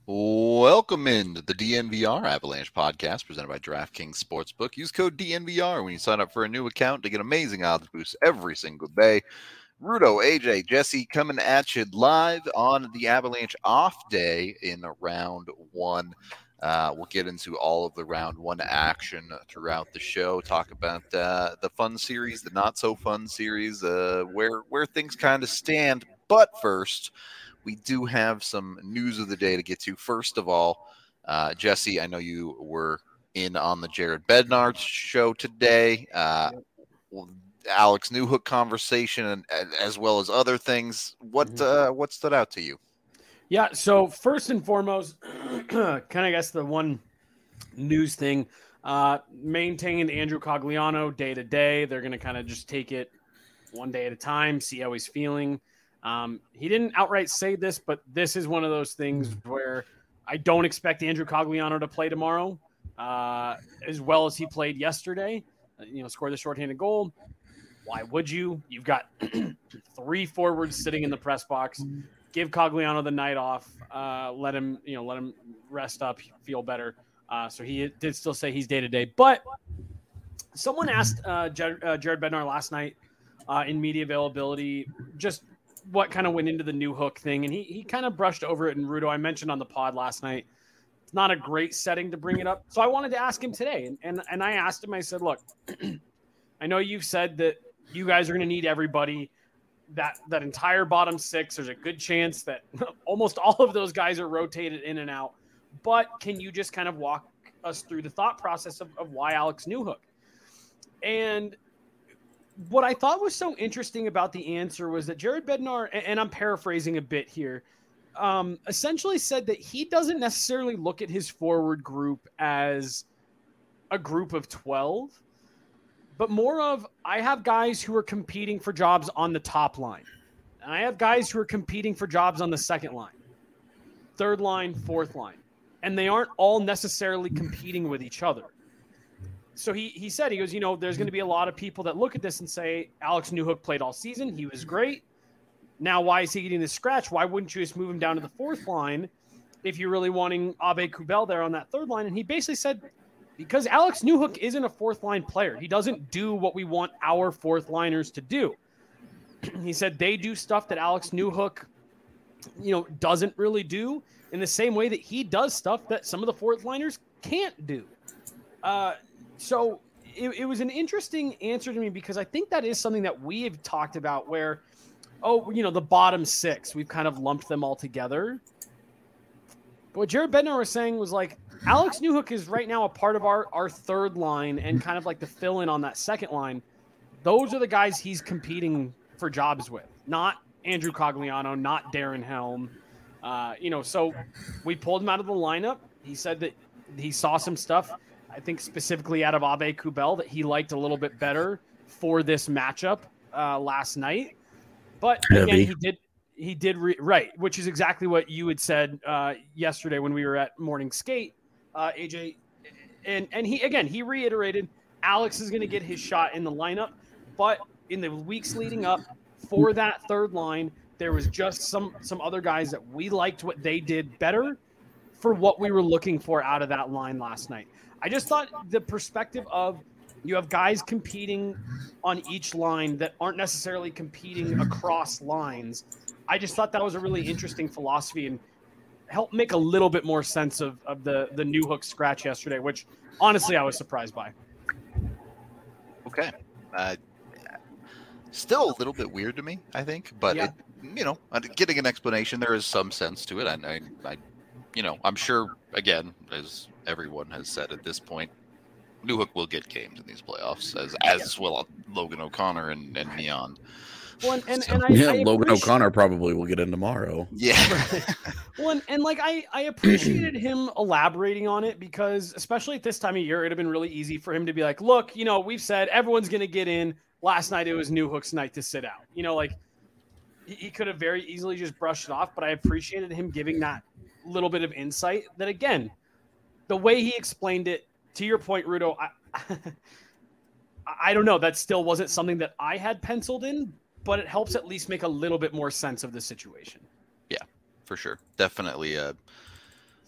Welcome into the DNVR Avalanche podcast presented by DraftKings Sportsbook. Use code DNVR when you sign up for a new account to get amazing odds boosts every single day. Rudo, AJ, Jesse coming at you live on the Avalanche off day in round one. We'll get into all of the round one action throughout the show, talk about the fun series, the not so fun series, where things kind of stand. But first, we do have some news of the day to get to. First of all, Jesse, I know you were in on the Jared Bednar show today. Alex Newhook conversation, and as well as other things. What stood out to you? Yeah, so first and foremost, kind of guess the one news thing, maintain Andrew Cogliano day to day. They're going to kind of just take it one day at a time, see how he's feeling. He didn't outright say this, but this is one of those things where I don't expect Andrew Cogliano to play tomorrow as well as he played yesterday. Score the shorthanded goal. Why would you? You've got three forwards sitting in the press box. Give Cogliano the night off. Let him rest up, feel better. So he did still say he's day to day. But someone asked Jared Bednar last night in media availability just what kind of went into the Newhook thing, and he kind of brushed over it. And Rudo, I mentioned on the pod last night, it's not a great setting to bring it up. So I wanted to ask him today, and I asked him. I said, look, I know you've said that you guys are going to need everybody. That entire bottom six, there's a good chance that almost all of those guys are rotated in and out. But can you just kind of walk us through the thought process of why Alex Newhook? And what I thought was so interesting about the answer was that Jared Bednar, and I'm paraphrasing a bit here, essentially said that he doesn't necessarily look at his forward group as a group of 12, but more of, I have guys who are competing for jobs on the top line, and I have guys who are competing for jobs on the second line, third line, fourth line, and they aren't all necessarily competing with each other. So he said, he goes, there's going to be a lot of people that look at this and say, Alex Newhook played all season. He was great. Now, why is he getting this scratch? Why wouldn't you just move him down to the fourth line if you're really wanting Abe Kubel there on that third line? And he basically said, because Alex Newhook isn't a fourth line player. He doesn't do what we want our fourth liners to do. He said they do stuff that Alex Newhook, doesn't really do in the same way that he does stuff that some of the fourth liners can't do. So it was an interesting answer to me because I think that is something that we have talked about where, the bottom six, we've kind of lumped them all together. But what Jared Bednar was saying was like, Alex Newhook is right now a part of our third line and kind of like the fill-in on that second line. Those are the guys he's competing for jobs with, not Andrew Cogliano, not Darren Helm. So we pulled him out of the lineup. He said that he saw some stuff, I think specifically out of Abe Kubel, that he liked a little bit better for this matchup last night. But again, he did right, which is exactly what you had said yesterday when we were at morning skate, AJ. And he reiterated Alex is going to get his shot in the lineup, but in the weeks leading up for that third line, there was just some other guys that we liked what they did better for what we were looking for out of that line last night. I just thought the perspective of you have guys competing on each line that aren't necessarily competing across lines. I just thought that was a really interesting philosophy and helped make a little bit more sense of the Newhook scratch yesterday, which honestly I was surprised by. Okay. Still a little bit weird to me, I think, but yeah. Getting an explanation, there is some sense to it. I'm sure, again, as everyone has said at this point, Newhook will get games in these playoffs, as will Logan O'Connor and Neon. Well, Logan O'Connor probably will get in tomorrow. Yeah. Well, I appreciated him elaborating on it because, especially at this time of year, it'd have been really easy for him to be like, look, we've said everyone's going to get in. Last night, it was Newhook's night to sit out. He could have very easily just brushed it off, but I appreciated him giving that little bit of insight that, again, the way he explained it, to your point, Rudo, I don't know. That still wasn't something that I had penciled in, but it helps at least make a little bit more sense of the situation. Yeah, for sure. Definitely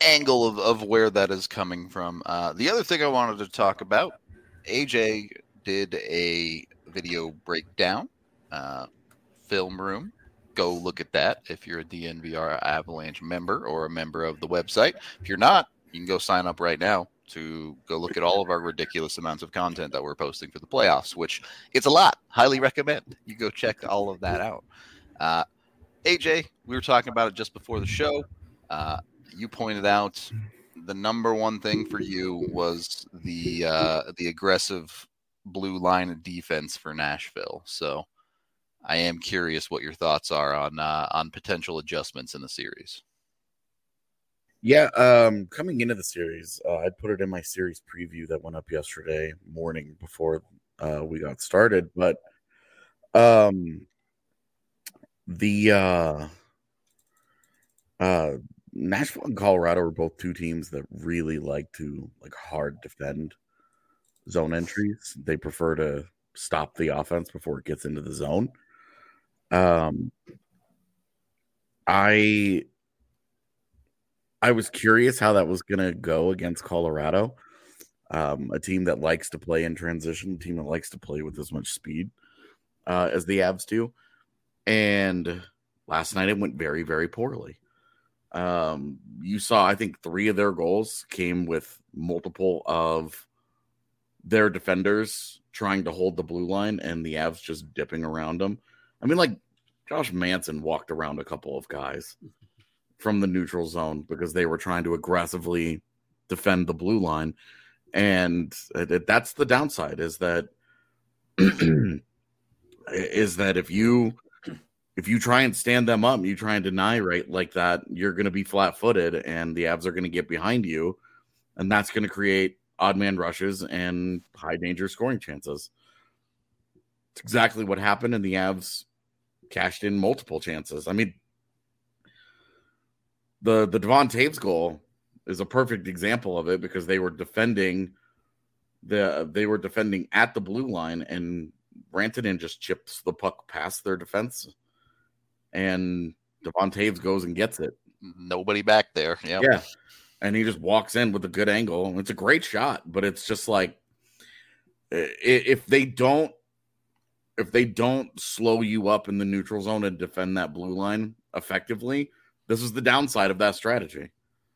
angle of where that is coming from. The other thing I wanted to talk about, AJ did a video breakdown, film room. Go look at that if you're a DNVR Avalanche member or a member of the website. If you're not, you can go sign up right now to go look at all of our ridiculous amounts of content that we're posting for the playoffs, which it's a lot. Highly recommend you go check all of that out. AJ, we were talking about it just before the show. You pointed out the number one thing for you was the aggressive blue line of defense for Nashville. So I am curious what your thoughts are on potential adjustments in the series. Yeah, coming into the series, I'd put it in my series preview that went up yesterday morning before we got started. But Nashville and Colorado are both two teams that really like to hard defend zone entries. They prefer to stop the offense before it gets into the zone. I was curious how that was going to go against Colorado, a team that likes to play in transition, a team that likes to play with as much speed as the Avs do. And last night it went very, very poorly. You saw, I think, 3 of their goals came with multiple of their defenders trying to hold the blue line and the Avs just dipping around them. I mean, like, Josh Manson walked around a couple of guys from the neutral zone because they were trying to aggressively defend the blue line. And that's the downside, is that if you try and stand them up, you try and deny right like that, you're going to be flat-footed and the Avs are going to get behind you, and that's going to create odd man rushes and high danger scoring chances. It's exactly what happened, and the Avs cashed in multiple chances. I mean, the Devon Taves goal is a perfect example of it, because they were defending at the blue line, and Rantanen just chips the puck past their defense, and Devon Taves goes and gets it. Nobody back there. Yep. Yeah. And he just walks in with a good angle. It's a great shot, but it's just like, if they don't slow you up in the neutral zone and defend that blue line effectively, this is the downside of that strategy.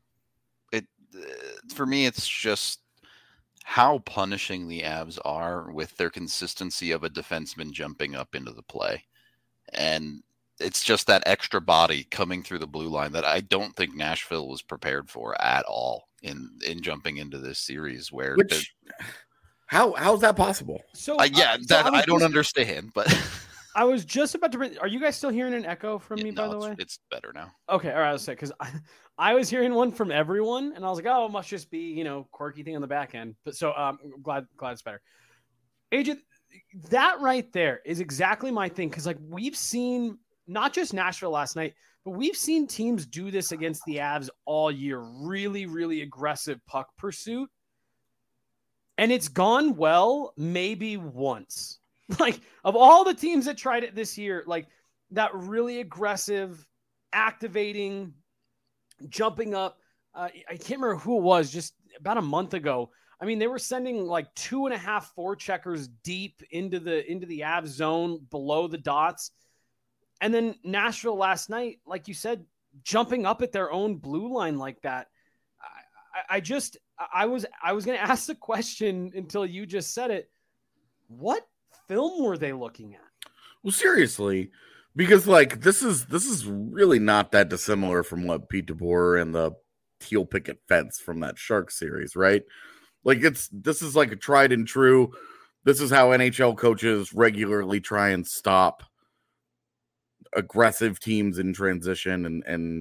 For me, it's just how punishing the Avs are with their consistency of a defenseman jumping up into the play. And it's just that extra body coming through the blue line that I don't think Nashville was prepared for at all in jumping into this series. How's that possible? So I don't understand, but I was just about to. Are you guys still hearing an echo from me? By the way, it's better now. Okay, all right. I'll say, because I was hearing one from everyone, and I was like, oh, it must just be quirky thing on the back end. But so I'm glad it's better. Agent, that right there is exactly my thing, because we've seen not just Nashville last night, but we've seen teams do this against the Avs all year. Really, really aggressive puck pursuit. And it's gone well maybe once. Of all the teams that tried it this year, that really aggressive, activating, jumping up. I can't remember who it was, just about a month ago. I mean, they were sending 2.5 forecheckers deep into the Avs zone below the dots. And then Nashville last night, like you said, jumping up at their own blue line like that. I was going to ask the question until you just said it. What film were they looking at? Well, seriously, because this is really not that dissimilar from what Pete DeBoer and the teal picket fence from that Sharks series, right? This is a tried and true. This is how NHL coaches regularly try and stop aggressive teams in transition, and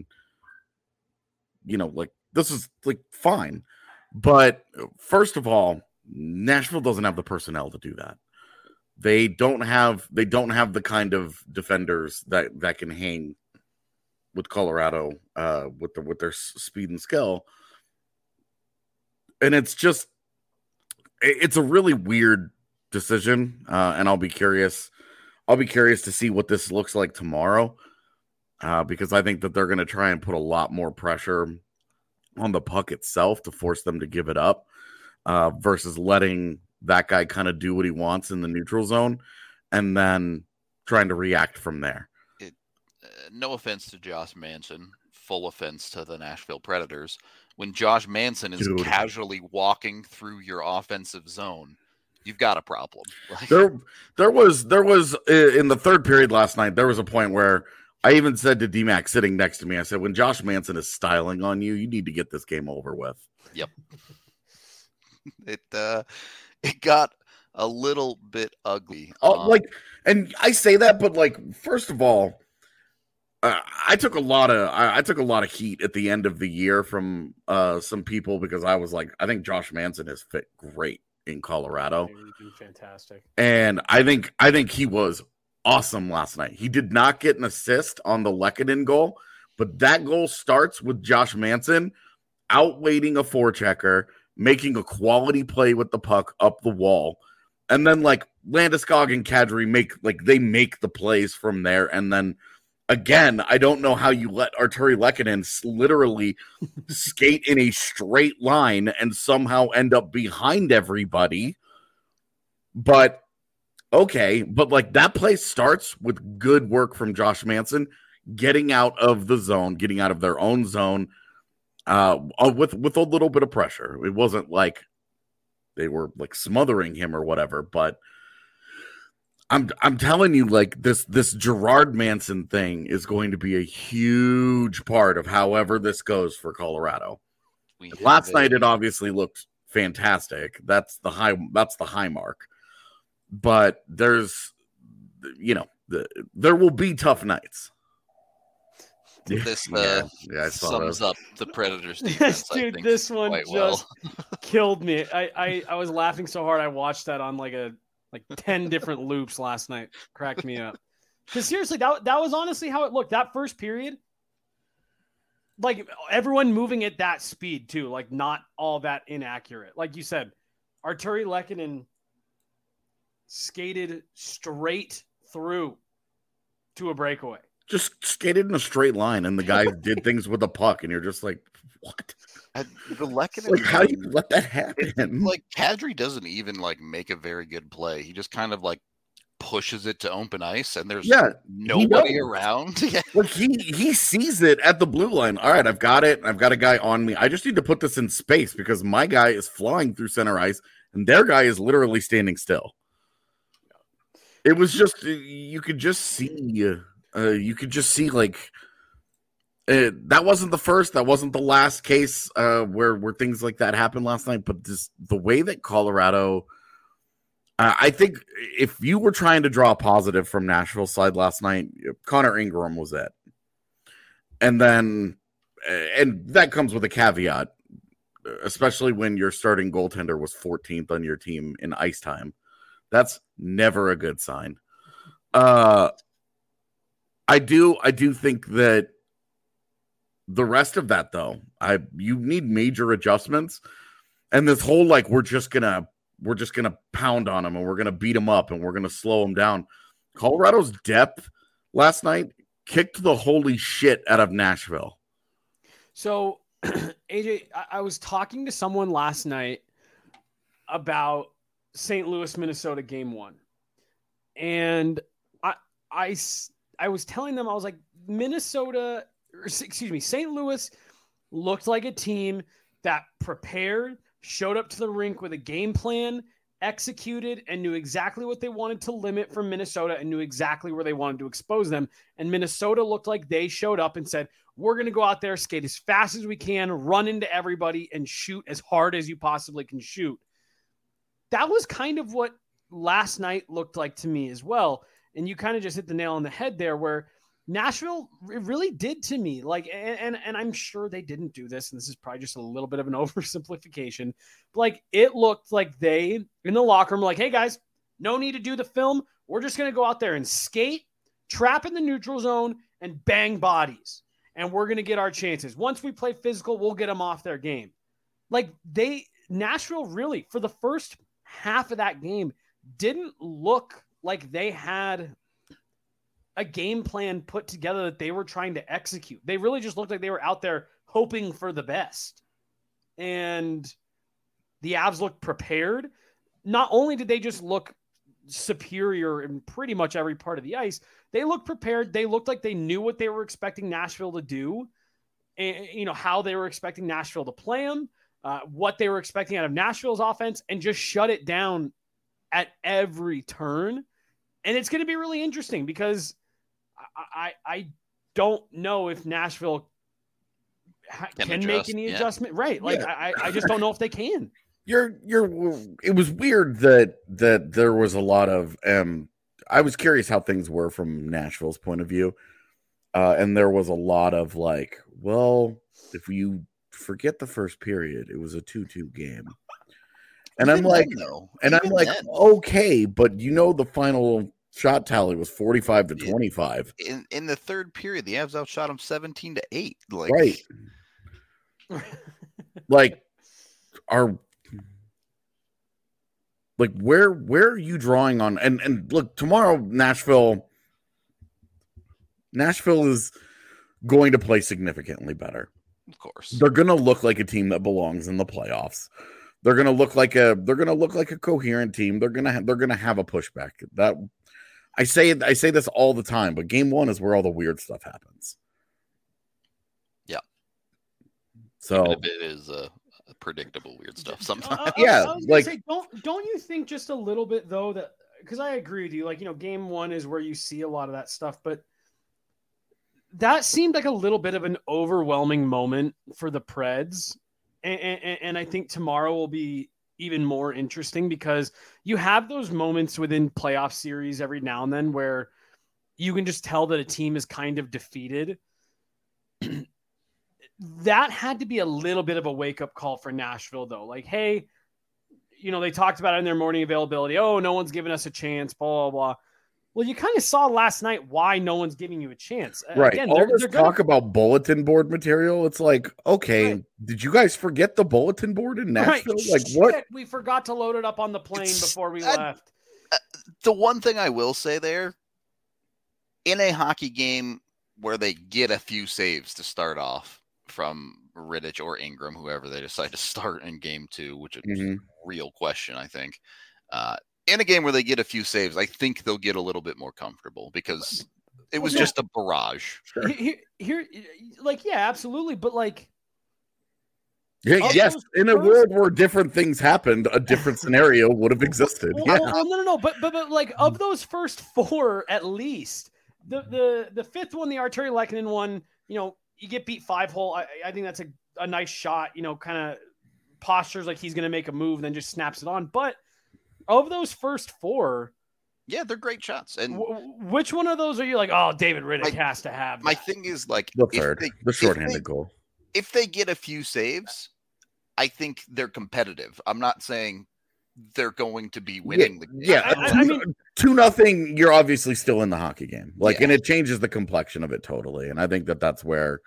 this is fine. But first of all, Nashville doesn't have the personnel to do that. They don't have the kind of defenders that can hang with Colorado with their speed and skill. And it's a really weird decision, and I'll be curious to see what this looks like tomorrow, because I think that they're going to try and put a lot more pressure on the puck itself to force them to give it up, versus letting that guy kind of do what he wants in the neutral zone and then trying to react from there. No offense to Josh Manson, full offense to the Nashville Predators. When Josh Manson is casually walking through your offensive zone, you've got a problem. There was in the third period last night, there was a point where I even said to D-Mac sitting next to me, I said, when Josh Manson is styling on you, you need to get this game over with. Yep. It got a little bit ugly. And I say that, but like, first of all, I took a lot of heat at the end of the year from some people because I was like, I think Josh Manson has fit great in Colorado. Fantastic. And I think he was awesome last night. He did not get an assist on the Lehkonen goal, but that goal starts with Josh Manson outweighting a forechecker, making a quality play with the puck up the wall. And then like Landeskog and Kadri make the plays from there. And then again, I don't know how you let Artturi Lehkonen literally skate in a straight line and somehow end up behind everybody. But okay, but like that play starts with good work from Josh Manson, getting out of the zone, getting out of their own zone, with a little bit of pressure. It wasn't like they were like smothering him or whatever, but I'm telling you, like this Gerard Manson thing is going to be a huge part of however this goes for Colorado. Last night it obviously looked fantastic. That's the high mark. But there's, there will be tough nights. This sums up the Predators defense. Dude, this one just killed me. I was laughing so hard I watched that on like 10 different loops last night. Cracked me up. Because seriously, that was honestly how it looked. That first period, like everyone moving at that speed too, like not all that inaccurate. Like you said, Artturi Lehkonen skated straight through to a breakaway. Just skated in a straight line, and the guy did things with the puck, and you're just like, what? The Lehkonen, like, how do you let that happen? Like Kadri doesn't even like make a very good play. He just kind of like pushes it to open ice, and there's nobody around. Like he sees it at the blue line. All right, I've got it. I've got a guy on me. I just need to put this in space because my guy is flying through center ice, and their guy is literally standing still. It was just you could just see like. That wasn't the first, that wasn't the last case where things like that happened last night, but just the way that Colorado, I think if you were trying to draw a positive from Nashville's side last night, Connor Ingram was it. And then, and that comes with a caveat, especially when your starting goaltender was 14th on your team in ice time. That's never a good sign. I do think that the rest of that, though, you need major adjustments, and this whole like we're just gonna pound on them and we're gonna beat them up and we're gonna slow them down. Colorado's depth last night kicked the holy shit out of Nashville. So, AJ, I was talking to someone last night about St. Louis, Minnesota game 1, and I was telling them, I was like, St. Louis looked like a team that prepared, showed up to the rink with a game plan, executed, and knew exactly what they wanted to limit from Minnesota and knew exactly where they wanted to expose them. And Minnesota looked like they showed up and said, we're going to go out there, skate as fast as we can, run into everybody, and shoot as hard as you possibly can shoot. That was kind of what last night looked like to me as well. And you kind of just hit the nail on the head there where Nashville really did to me. Like, and I'm sure they didn't do this, and this is probably just a little bit of an oversimplification. But like, it looked like they in the locker room, like, hey guys, no need to do the film. We're just going to go out there and skate, trap in the neutral zone, and bang bodies. And we're going to get our chances. Once we play physical, we'll get them off their game. Like Nashville really, for the first half of that game, didn't look like they had a game plan put together that they were trying to execute. They really just looked like they were out there hoping for the best. and the Avs looked prepared. Not only did they just look superior in pretty much every part of the ice, they looked prepared. They looked like they knew what they were expecting Nashville to do, and how they were expecting Nashville to play them, what they were expecting out of Nashville's offense, and just shut it down at every turn. And it's going to be really interesting because I don't know if Nashville can make any adjustment. Right. Like I just don't know if they can. It was weird that there was a lot of I was curious how things were from Nashville's point of view. And there was a lot of like, well, if you forget the first period, it was a 2-2 game. And I'm like, okay, but the final shot tally was 45-25. In the third period, the Avs outshot them 17-8. Right. Like, where are you drawing on? And look, tomorrow Nashville is going to play significantly better. Of course, they're going to look like a team that belongs in the playoffs. They're going to look like a coherent team. They're going to have a pushback. That I say this all the time, but game one is where all the weird stuff happens. Yeah. So it is predictable weird stuff sometimes. Yeah, say, don't you think just a little bit though that, because I agree with you, game one is where you see a lot of that stuff, but that seemed like a little bit of an overwhelming moment for the Preds, and I think tomorrow will be even more interesting because you have those moments within playoff series every now and then where you can just tell that a team is kind of defeated. That had to be a little bit of a wake-up call for Nashville, though. Like, hey, they talked about it in their morning availability. Oh, no one's giving us a chance, blah, blah, blah. Well, you kind of saw last night why no one's giving you a chance. Right. Again, all this talk about bulletin board material, it's like, okay, right. Did you guys forget the bulletin board in Nashville? Right. Like, what? We forgot to load it up on the plane before we left. The one thing I will say there, in a hockey game where they get a few saves to start off, from Rittich or Ingram, whoever they decide to start in game two, which is a real question, I think. In a game where they get a few saves, I think they'll get a little bit more comfortable because it was just a barrage. Sure. Here, absolutely. But yes, in a world where different things happened, a different scenario would have existed. No. But of those first four, at least the fifth one, the Artturi Lehkonen one, you get beat 5-hole. I think that's a nice shot, kind of postures like he's going to make a move, then just snaps it on. But of those first four, yeah, they're great shots. And which one of those are you like, oh, David Rittich has to have that? My thing is the third, the shorthanded goal. If they get a few saves, I think they're competitive. I'm not saying they're going to be winning the game. Yeah, I mean, 2-0, you're obviously still in the hockey game. And it changes the complexion of it totally. And I think that's where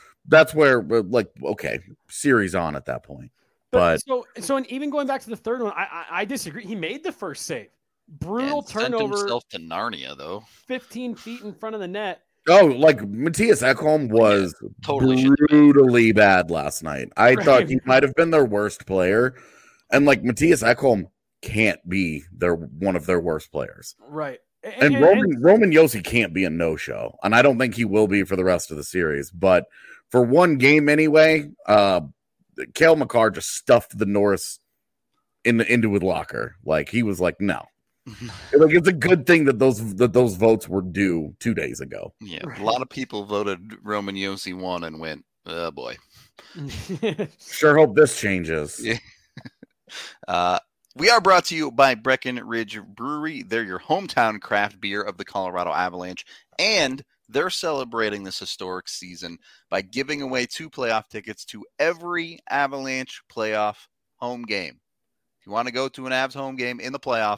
okay, series on at that point. But so and even going back to the third one, I disagree. He made the first save. Brutal turnover. Sent himself to Narnia, though. 15 feet in front of the net. Oh, Matthias Ekholm was totally brutally bad last night. I thought he might have been their worst player. And Matthias Ekholm can't be one of their worst players. Right. And Roman Josi can't be a no-show. And I don't think he will be for the rest of the series. But for one game anyway, Cale Makar just stuffed the Norris into his locker. He was like, no. It's a good thing that those votes were due 2 days ago. Yeah, a lot of people voted Roman Josi won and went, oh boy. Sure hope this changes. Yeah. We are brought to you by Breckenridge Brewery. They're your hometown craft beer of the Colorado Avalanche, and they're celebrating this historic season by giving away 2 playoff tickets to every Avalanche playoff home game. If you want to go to an Avs home game in the playoffs,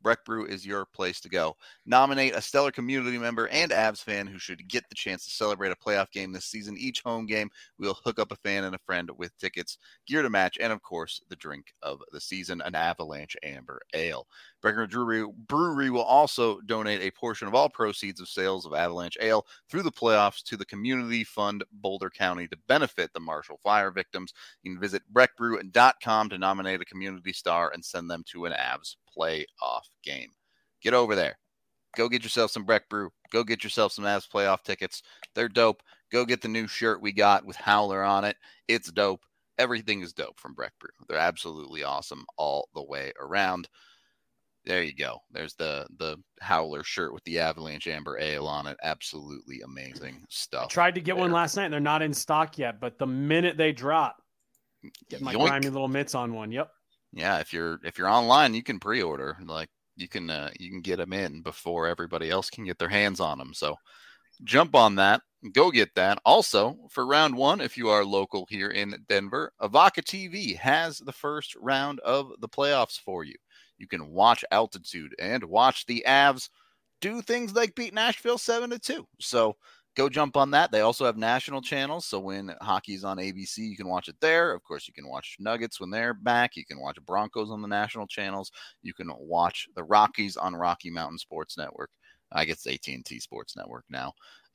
Breck Brew is your place to go. Nominate a stellar community member and Avs fan who should get the chance to celebrate a playoff game this season. Each home game, we'll hook up a fan and a friend with tickets, gear to match, and, of course, the drink of the season, an Avalanche Amber Ale. Breckenridge Brewery will also donate a portion of all proceeds of sales of Avalanche Ale through the playoffs to the Community Fund Boulder County to benefit the Marshall Fire victims. You can visit breckbrew.com to nominate a community star and send them to an Avs playoff game. Get over there. Go get yourself some Breck Brew. Go get yourself some Avs playoff tickets. They're dope. Go get the new shirt we got with Howler on it. It's dope. Everything is dope from Breck Brew. They're absolutely awesome all the way around. There you go. There's the Howler shirt with the Avalanche Amber Ale on it. Absolutely amazing stuff. I tried to get one last night, and they're not in stock yet. But the minute they drop, get my grimy little mitts on one. Yep. Yeah, if you're online, you can pre-order. Like you can get them in before everybody else can get their hands on them. So jump on that. Go get that. Also, for round one, if you are local here in Denver, Avaca TV has the first round of the playoffs for you. You can watch Altitude and watch the Avs do things like beat Nashville 7-2. So go jump on that. They also have national channels. So when hockey's on ABC, you can watch it there. Of course, you can watch Nuggets when they're back. You can watch Broncos on the national channels. You can watch the Rockies on Rocky Mountain Sports Network. I guess it's AT&T Sports Network now.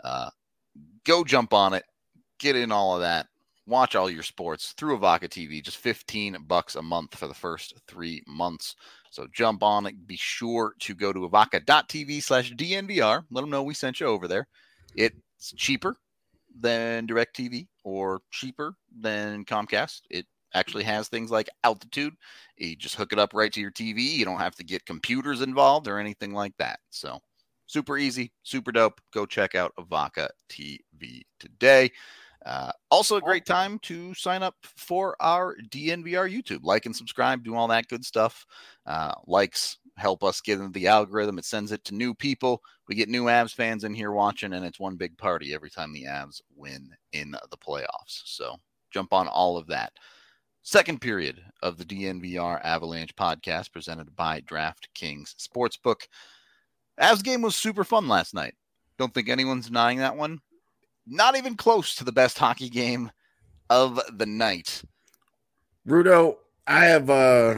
Go jump on it. Get in all of that. Watch all your sports through Avaca TV. Just $15 a month for the first 3 months. So jump on it. Be sure to go to avaca.tv/DNVR. Let them know we sent you over there. It's cheaper than DirecTV or cheaper than Comcast. It actually has things like Altitude. You just hook it up right to your TV. You don't have to get computers involved or anything like that. So super easy, super dope. Go check out Avaca TV today. Also a great time to sign up for our DNVR YouTube. Like and subscribe, do all that good stuff. Likes help us get into the algorithm. It sends it to new people. We get new Avs fans in here watching, and it's one big party every time the Avs win in the playoffs. So jump on all of that. Second period of the DNVR Avalanche podcast presented by DraftKings Sportsbook. Avs game was super fun last night. Don't think anyone's denying that one. Not even close to the best hockey game of the night. Rudo, I have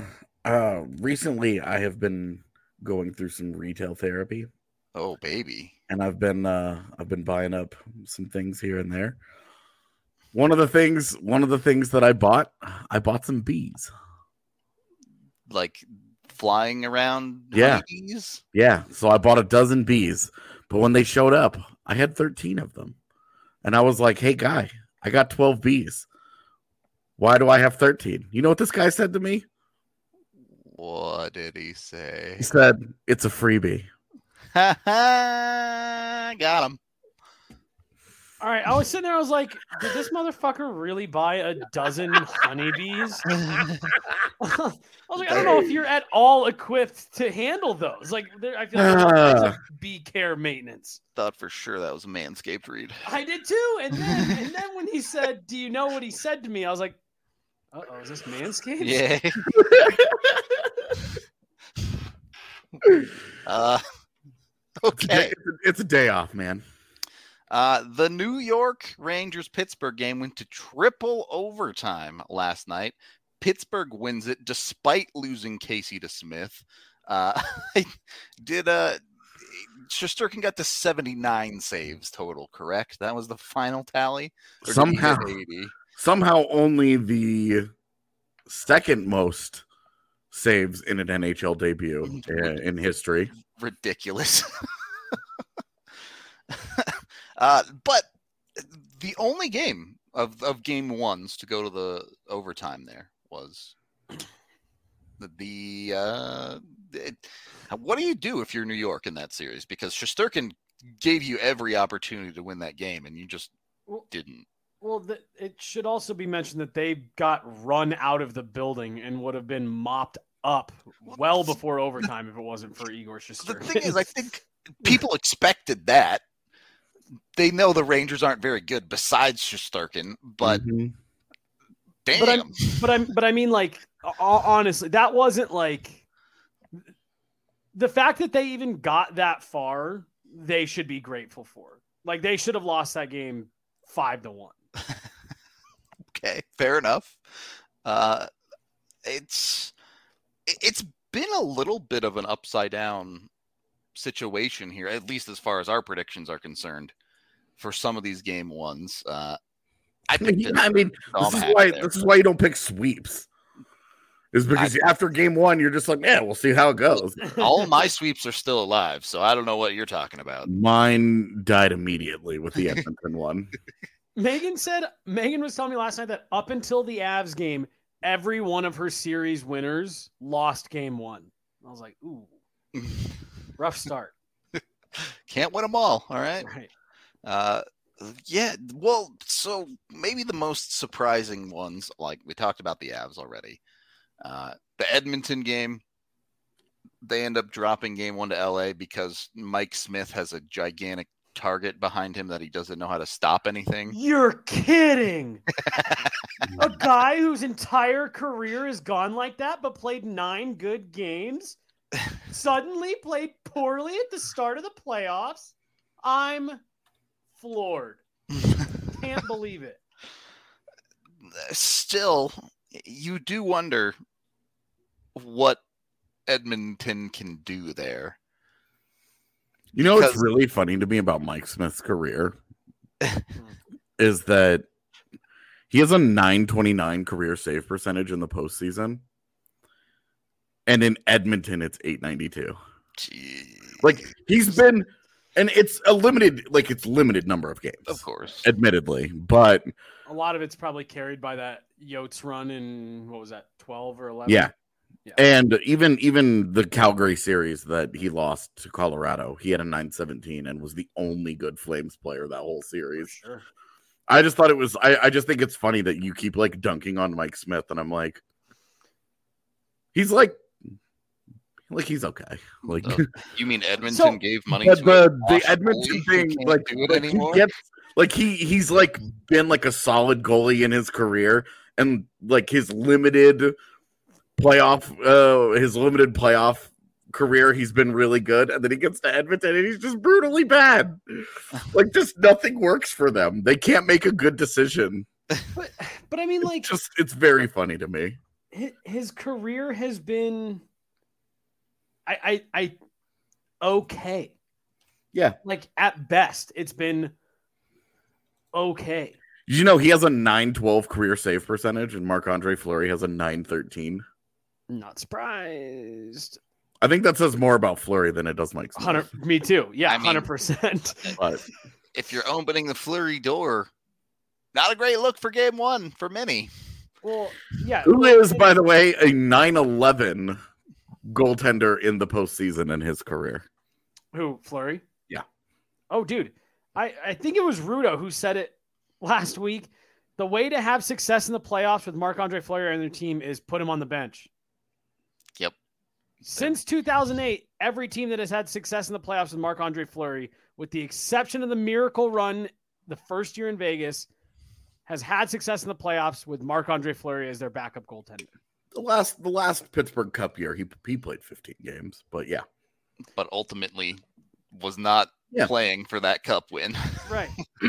recently I have been going through some retail therapy. Oh, baby. And I've been buying up some things here and there. One of the things that I bought some bees. Like flying around honeybees? Yeah. So I bought a dozen bees, but when they showed up, I had 13 of them. And I was like, hey, guy, I got 12 bees. Why do I have 13? You know what this guy said to me? What did he say? He said, it's a freebie. Got him. All right. I was sitting there. I was like, did this motherfucker really buy a dozen honeybees? I was like, I don't know if you're at all equipped to handle those. Like, I feel like it's like bee care maintenance. Thought for sure that was a Manscaped read. I did too. And then when he said, do you know what he said to me? I was like, uh-oh, is this Manscaped? Yeah. Okay. It's a day off, man. The New York Rangers-Pittsburgh game went to triple overtime last night. Pittsburgh wins it despite losing Casey DeSmith. Shesterkin got to 79 saves total, correct? That was the final tally? Or Somehow, 80? Somehow only the second most saves in an NHL debut in history. Ridiculous. But the only game of game ones to go to the overtime there was what do you do if you're New York in that series? Because Shesterkin gave you every opportunity to win that game, and you just didn't. Well, it should also be mentioned that they got run out of the building and would have been mopped up well before overtime if it wasn't for Igor Shesterkin. The thing is, I think people expected that. They know the Rangers aren't very good besides Shesterkin, but damn. But I mean, like, honestly, that wasn't like the fact that they even got that far, they should be grateful for. Like, they should have lost that game 5-1. Okay, fair enough. It's been a little bit of an upside down situation here, at least as far as our predictions are concerned, for some of these game ones. This is why you don't pick sweeps. Is because after game one, you're just like, yeah, we'll see how it goes. All my sweeps are still alive, so I don't know what you're talking about. Mine died immediately with the Edmonton one. Megan was telling me last night that up until the Avs game, every one of her series winners lost game one. I was like, ooh, rough start. Can't win them all right? Right. Yeah, well, so maybe the most surprising ones, like we talked about the Avs already. The Edmonton game, they end up dropping game one to LA because Mike Smith has a gigantic target behind him that he doesn't know how to stop anything. You're kidding. A guy whose entire career has gone like that, but played 9 good games, suddenly played poorly at the start of the playoffs. I'm floored. Can't believe it. Still, you do wonder what Edmonton can do there. You know what's really funny to me about Mike Smith's career is that he has a .929 career save percentage in the postseason, and in Edmonton it's .892. Jeez. Like, he's been, and it's a limited number of games, of course, admittedly, but a lot of it's probably carried by that Yotes run in, what was that, 12 or 11? Yeah. And even the Calgary series that he lost to Colorado, he had a .917 and was the only good Flames player that whole series. Sure. I just thought it was, I just think it's funny that you keep like dunking on Mike Smith, and I'm like, he's like he's okay. Like, you mean Edmonton gave money to the Edmonton thing, like he gets, like he's like been like a solid goalie in his career, and like his limited playoff career, he's been really good, and then he gets to Edmonton and he's just brutally bad. Like, just nothing works for them. They can't make a good decision. But I mean, like, it's very funny to me. His career has been I okay. Yeah. Like, at best, it's been okay. Did you know he has a .912 career save percentage, and Marc-Andre Fleury has a .913? Not surprised. I think that says more about Fleury than it does Mike Smith. Me too. Yeah, 100%. But if you're opening the Fleury door, not a great look for game one for many. Well, yeah. Who is, by the way, a .911 goaltender in the postseason in his career? Who, Fleury? Yeah. Oh, dude. I think it was Rudo who said it last week. The way to have success in the playoffs with Marc-Andre Fleury and their team is put him on the bench. Yep. Since 2008, every team that has had success in the playoffs with Marc-Andre Fleury, with the exception of the miracle run the first year in Vegas, has had success in the playoffs with Marc-Andre Fleury as their backup goaltender. The last Pittsburgh Cup year, he played 15 games, but yeah. But ultimately was not playing for that Cup win. Right.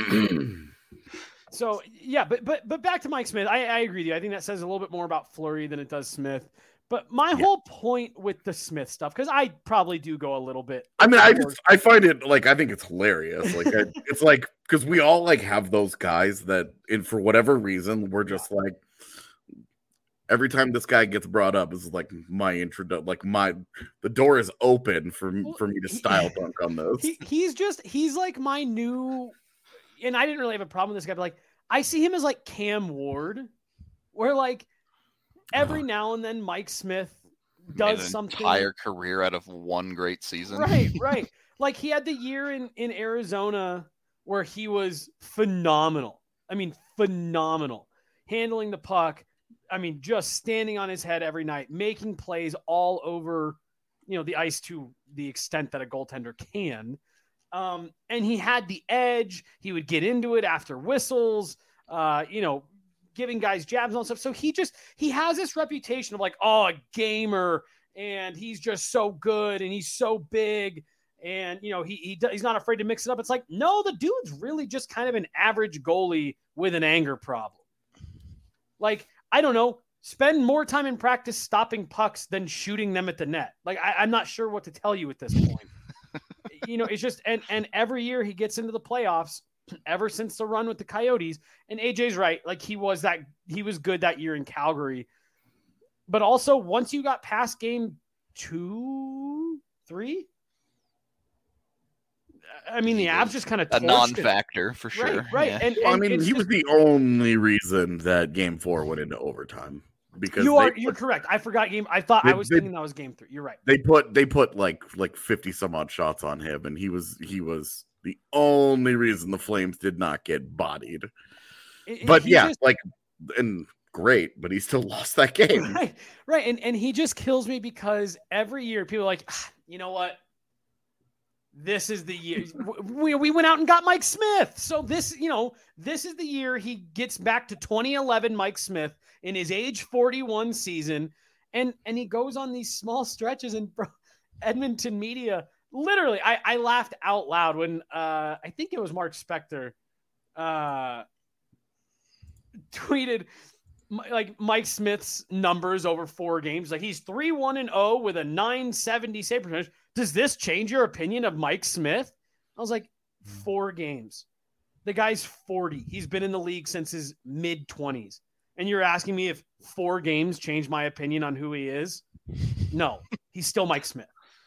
So, yeah, but back to Mike Smith. I agree with you. I think that says a little bit more about Fleury than it does Smith. But my whole point with the Smith stuff, because I probably do go a little bit. I mean, I find it, like, I think it's hilarious. Like, it's like, because we all like have those guys that, for whatever reason, we're just like, every time this guy gets brought up, is like my introduction, like the door is open for me to style dunk on those. He's like my new, and I didn't really have a problem with this guy, but like, I see him as like Cam Ward, where like, every now and then Mike Smith does something. Entire career out of one great season. Right. Like, he had the year in Arizona where he was phenomenal. I mean, phenomenal. Handling the puck. I mean, just standing on his head every night, making plays all over, the ice to the extent that a goaltender can. And he had the edge. He would get into it after whistles, giving guys jabs and all stuff. So he has this reputation of like, a gamer and he's just so good and he's so big. And, he's not afraid to mix it up. It's like, no, the dude's really just kind of an average goalie with an anger problem. Like, I don't know, spend more time in practice stopping pucks than shooting them at the net. Like, I'm not sure what to tell you at this point. It's just, and every year he gets into the playoffs ever since the run with the Coyotes. And AJ's right. Like, he was good that year in Calgary. But also, once you got past game 2, 3, I mean, the Avs just kind of a non-factor for sure. Right. Yeah. And he was the only reason that game 4 went into overtime. Because you're correct. I forgot game. I thought I was thinking that was game 3. You're right. They put like 50 some odd shots on him, and he was the only reason the Flames did not get bodied. Great, but he still lost that game. Right. And he just kills me because every year people are like, you know what? This is the year we went out and got Mike Smith. So this is the year he gets back to 2011 Mike Smith in his age 41 season. And he goes on these small stretches, and Edmonton media, literally, I laughed out loud when I think it was Mark Spector tweeted like Mike Smith's numbers over 4 games. Like, he's 3-1-0 with a .970 save percentage. Does this change your opinion of Mike Smith? I was like, 4 games. The guy's 40. He's been in the league since his mid-20s. And you're asking me if 4 games change my opinion on who he is? No, he's still Mike Smith.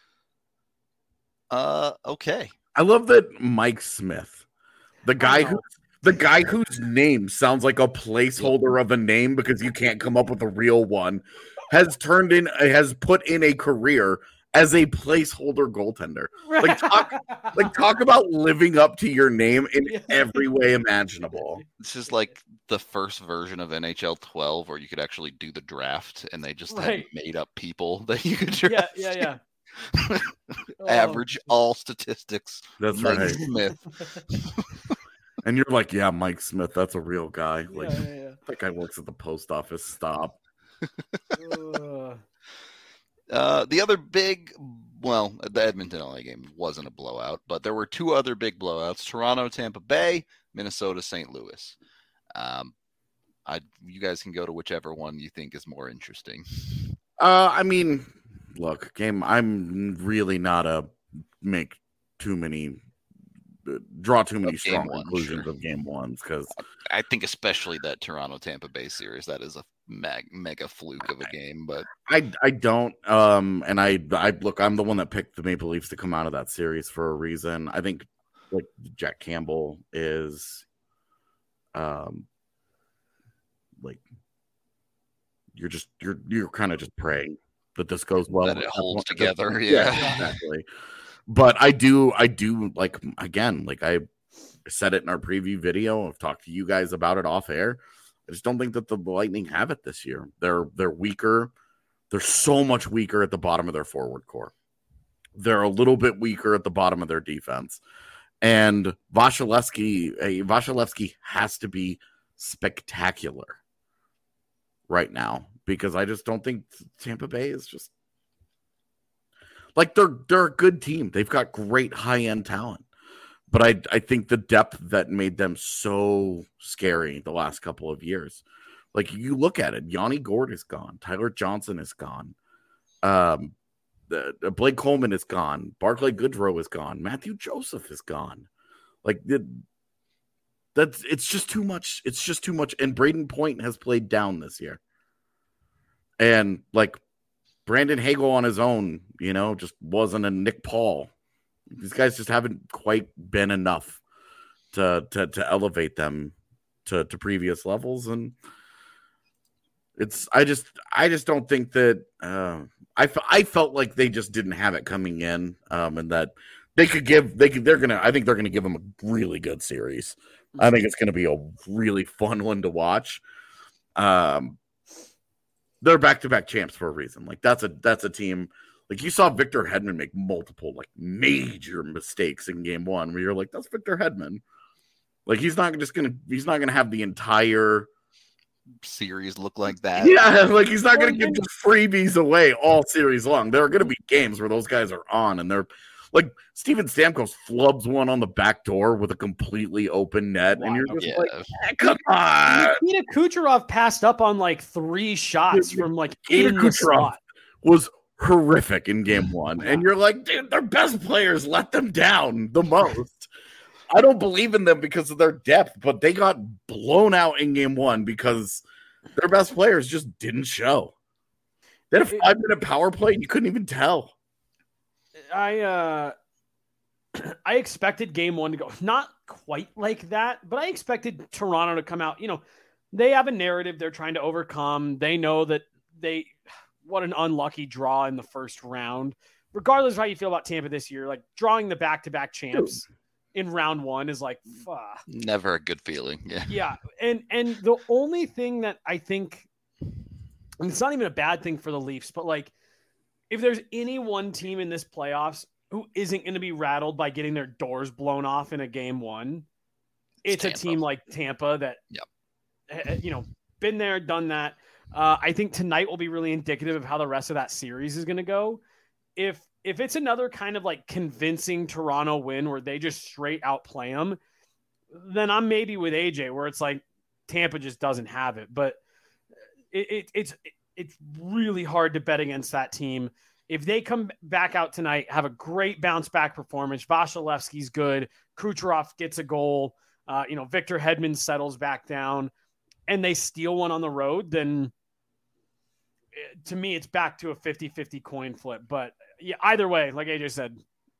Okay. I love that Mike Smith, the guy whose name sounds like a placeholder of a name because you can't come up with a real one, has put in a career as a placeholder goaltender. Talk about living up to your name in every way imaginable. This is like the first version of NHL 12 where you could actually do the draft and they just had made up people that you could draft. Yeah. Average all statistics. That's Mike right. Smith. And you're like, yeah, Mike Smith, that's a real guy. That guy works at the post office. Stop. The other big, the Edmonton LA game wasn't a blowout, but there were 2 other big blowouts: Toronto, Tampa Bay, Minnesota, St. Louis. You guys can go to whichever one you think is more interesting. Look, I'm really not draw too many strong conclusions of game 1s, because I think especially that Toronto Tampa Bay series, that is a mega fluke of a game. But I don't and I look, I'm the one that picked the Maple Leafs to come out of that series for a reason. I think like Jack Campbell is like you're kind of just praying that this goes well, that it holds together. Yeah, exactly. But I do like, again, like I said it in our preview video. I've talked to you guys about it off air. I just don't think that the Lightning have it this year. They're weaker. They're so much weaker at the bottom of their forward core. They're a little bit weaker at the bottom of their defense. And Vasilevsky has to be spectacular right now, because I just don't think Tampa Bay is just like, they're a good team. They've got great high-end talent. But I think the depth that made them so scary the last couple of years. Like, you look at it, Yanni Gourde is gone. Tyler Johnson is gone. Blake Coleman is gone. Barclay Goodrow is gone. Matthew Joseph is gone. Like, it's just too much. It's just too much. And Braden Point has played down this year. And, like, Brandon Hagel on his own, just wasn't a Nick Paul. These guys just haven't quite been enough to elevate them to previous levels. And I just don't think that I felt like they just didn't have it coming in, and that I think they're gonna give them a really good series. I think it's gonna be a really fun one to watch. They're back-to-back champs for a reason. Like, that's a team. Like, you saw Victor Hedman make multiple, like, major mistakes in game 1 where you're like, that's Victor Hedman. Like, he's not gonna have the entire series look like that. Yeah, like he's not going to give the freebies away all series long. There are going to be games where those guys are on and they're like Steven Stamkos flubs one on the back door with a completely open net, and you're just like, come on. Nikita Kucherov passed up on like 3 shots from like Nikita in the Kucherov slot. was horrific in game 1, and you're like, dude, their best players let them down the most. I don't believe in them because of their depth, but they got blown out in game 1 because their best players just didn't show. They had a 5-minute power play, and you couldn't even tell. I expected game 1 to go not quite like that, but I expected Toronto to come out. You know, they have a narrative they're trying to overcome. They know that what an unlucky draw in the first round. Regardless of how you feel about Tampa this year, like drawing the back-to-back champs in round 1 is like, never a good feeling. Yeah. And the only thing that I think, and it's not even a bad thing for the Leafs, but like, if there's any one team in this playoffs who isn't going to be rattled by getting their doors blown off in a game 1, it's Tampa. A team like Tampa that, you know, been there, done that. I think tonight will be really indicative of how the rest of that series is going to go. If it's another kind of like convincing Toronto win where they just straight outplay them, then I'm maybe with AJ where it's like Tampa just doesn't have it. But it's really hard to bet against that team. If they come back out tonight, have a great bounce back performance, Vasilevsky's good, Kucherov gets a goal, you know, Victor Hedman settles back down, and they steal one on the road, then to me, it's back to a 50-50 coin flip. But yeah, either way, like AJ said,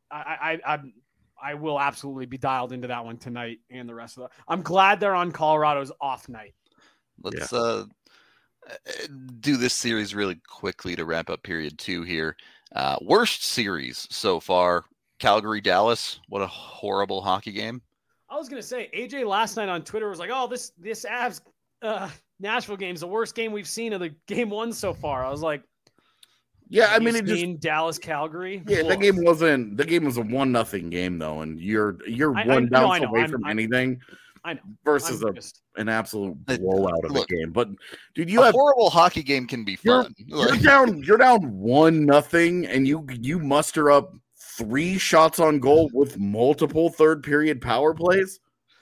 I will absolutely be dialed into that one tonight and the rest of I'm glad they're on Colorado's off night. Let's do this series really quickly to wrap up period 2 here. Worst series so far, Calgary-Dallas. What a horrible hockey game. I was going to say, AJ last night on Twitter was like, oh, this Avs Nashville game is the worst game we've seen of the game 1 so far. I was like, yeah, I mean, it just Dallas Calgary. Yeah, the game was a 1-0 game though, and you're one bounce away from anything. I know. Versus an absolute blowout of a game. But dude, a horrible hockey game can be fun. You're down 1-0, and you muster up 3 shots on goal with multiple third period power plays.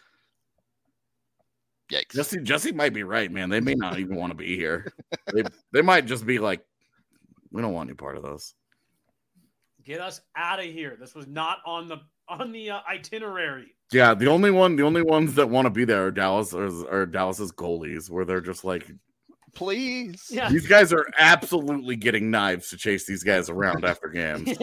Yikes. Jesse might be right, man. They may not even want to be here. They might just be like, we don't want any part of this. Get us out of here. This was not on the itinerary. Yeah, the only ones that want to be there are Dallas's goalies, where they're just like, please. Yeah. These guys are absolutely getting knives to chase these guys around after games.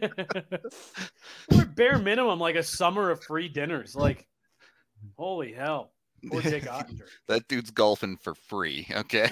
We're bare minimum like a summer of free dinners. Like, holy hell. Poor Jake Ottinger. That dude's golfing for free. Okay.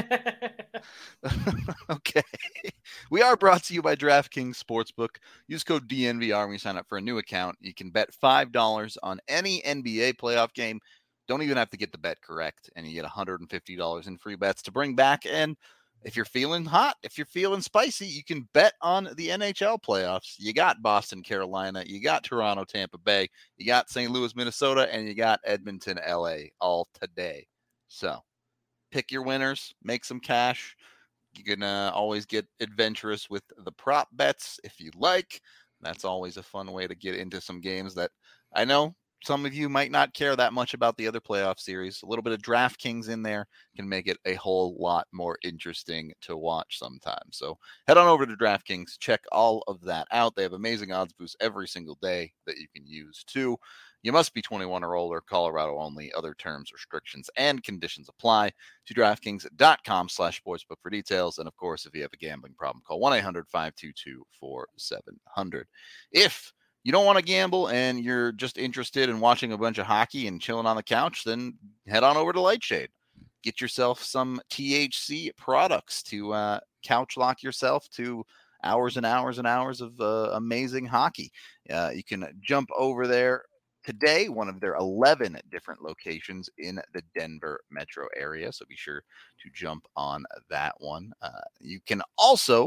Okay. We are brought to you by DraftKings Sportsbook. Use code DNVR when you sign up for a new account. You can bet $5 on any NBA playoff game. Don't even have to get the bet correct, and you get $150 in free bets to bring back. And if you're feeling hot, if you're feeling spicy, you can bet on the NHL playoffs. You got Boston, Carolina, you got Toronto, Tampa Bay, you got St. Louis, Minnesota, and you got Edmonton, LA all today. So pick your winners, make some cash. You can always get adventurous with the prop bets if you like. That's always a fun way to get into some games that I know some of you might not care that much about the other playoff series. A little bit of DraftKings in there can make it a whole lot more interesting to watch sometimes. So head on over to DraftKings, check all of that out. They have amazing odds boosts every single day that you can use too. You must be 21 or older, Colorado only. Other terms, restrictions, and conditions apply. To DraftKings.com/sportsbook for details. And of course, if you have a gambling problem, call 1-800-522-4700. If you don't want to gamble and you're just interested in watching a bunch of hockey and chilling on the couch, then head on over to Lightshade. Get yourself some THC products to couch lock yourself to hours and hours and hours of amazing hockey. You can jump over there today, one of their 11 different locations in the Denver metro area. So be sure to jump on that one. You can also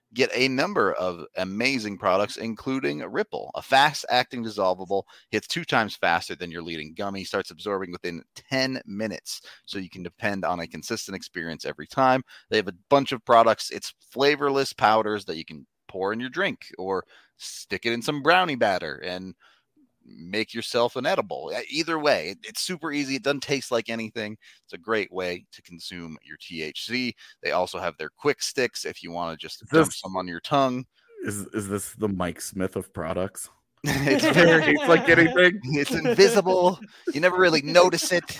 get a number of amazing products, including Ripple, a fast-acting dissolvable, hits 2 times faster than your leading gummy, starts absorbing within 10 minutes, so you can depend on a consistent experience every time. They have a bunch of products. It's flavorless powders that you can pour in your drink or stick it in some brownie batter and make yourself an edible. Either way, it's super easy. It doesn't taste like anything. It's a great way to consume your THC. They also have their quick sticks if you want to just dump some on your tongue. Is this the Mike Smith of products? It's like anything. It's invisible. You never really notice it.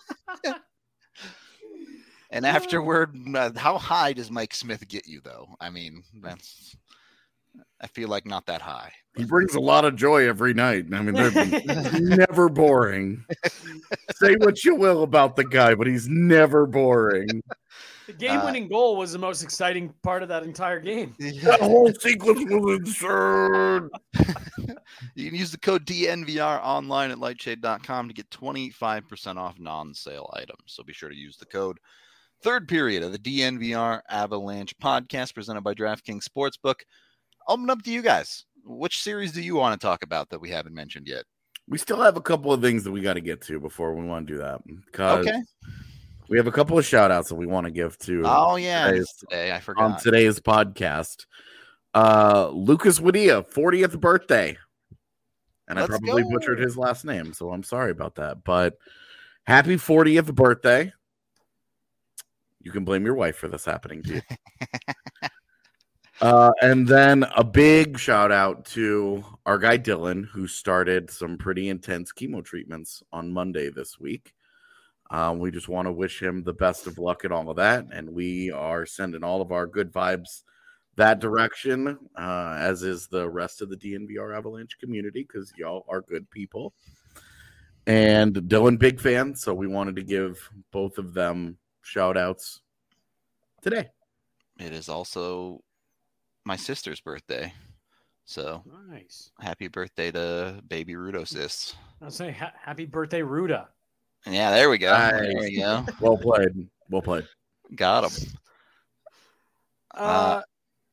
And afterward, how high does Mike Smith get you, though? I mean, I feel like not that high. He brings a lot of joy every night. I mean, they're never boring. Say what you will about the guy, but he's never boring. The game-winning goal was the most exciting part of that entire game. That whole sequence was absurd. You can use the code DNVR online at lightshade.com to get 25% off non-sale items. So be sure to use the code. Third period of the DNVR Avalanche podcast presented by DraftKings Sportsbook. Open up to you guys. Which series do you want to talk about that we haven't mentioned yet? We still have a couple of things that we got to get to before we want to do that. Okay. We have a couple of shout outs that we want to give to. Oh, yeah. Today. I forgot. On today's podcast. Lucas Wadia, 40th birthday. And I probably butchered his last name, so I'm sorry about that. But happy 40th birthday. You can blame your wife for this happening to you. And then a big shout out to our guy Dylan, who started some pretty intense chemo treatments on Monday this week. We just want to wish him the best of luck and all of that. And we are sending all of our good vibes that direction, as is the rest of the DNVR Avalanche community, because y'all are good people. And Dylan, big fan. So we wanted to give both of them shout outs today. It is also my sister's birthday. So nice. Happy birthday to baby Rudo sis. I'll say happy birthday, Ruda. Yeah, there we go. Nice. There we go. Well played. Well played. Got him. I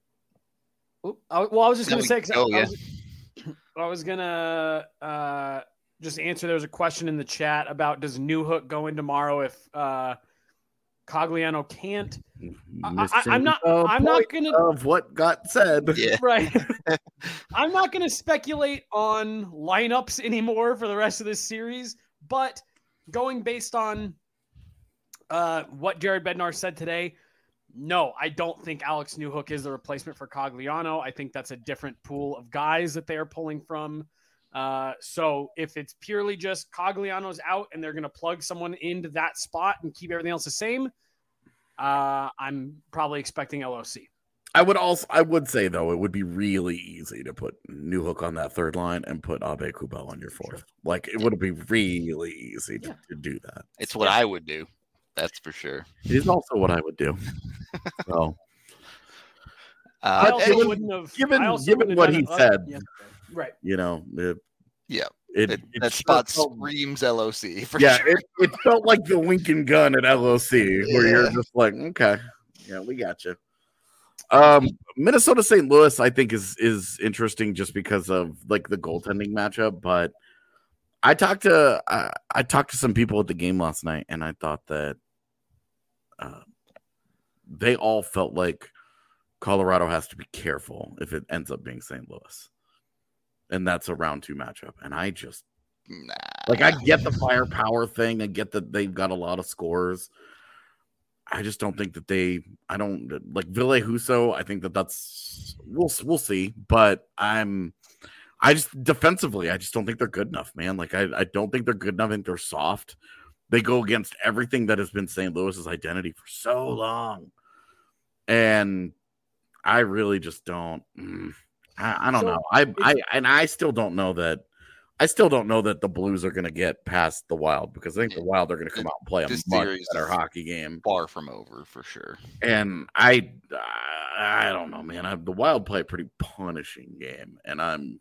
was just going to say, I was going to just answer. There was a question in the chat about, does Newhook go in tomorrow if Cogliano can't? I'm not going to of what got said. Yeah. Right. I'm not going to speculate on lineups anymore for the rest of this series, but going based on what Jared Bednar said today, no, I don't think Alex Newhook is the replacement for Cogliano. I think that's a different pool of guys that they are pulling from. So if it's purely just Cogliano's out and they're going to plug someone into that spot and keep everything else the same, I'm probably expecting LOC. I would say, though, it would be really easy to put Newhook on that third line and put Abe Kubel on your fourth. Sure. Like, it would be really easy to do that. It's what I would do. That's for sure. It is also what I would do. So, given what he said, right? You know, that spot screams LOC. For sure. It felt like the Lincoln gun at LOC, where you're just like, okay, yeah, we got you. Minnesota St. Louis, I think is interesting just because of like the goaltending matchup, but I talked to some people at the game last night, and I thought that they all felt like Colorado has to be careful if it ends up being St. Louis, and that's a round 2 matchup. And I just I get the firepower thing, I get that they've got a lot of scores. I just don't think that I don't like Ville Husso. I think that's we'll see, but I just defensively, I just don't think they're good enough, man. Like I don't think they're good enough. I think they're soft. They go against everything that has been St. Louis's identity for so long, and I really just don't. I don't know. I still don't know that. I still don't know that the Blues are going to get past the Wild, because I think the Wild are going to come out and play a much better hockey game. Far from over, for sure. And I don't know, man. The Wild play a pretty punishing game, and I'm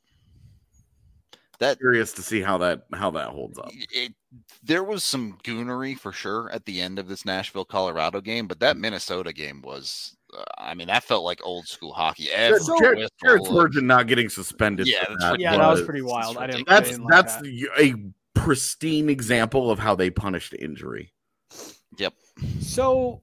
curious to see how that holds up. There was some goonery for sure at the end of this Nashville, Colorado game, but that Minnesota game was I mean, that felt like old school hockey. Jared Spurgeon not getting suspended. Yeah, that was pretty wild. That's a pristine example of how they punished injury. Yep. So,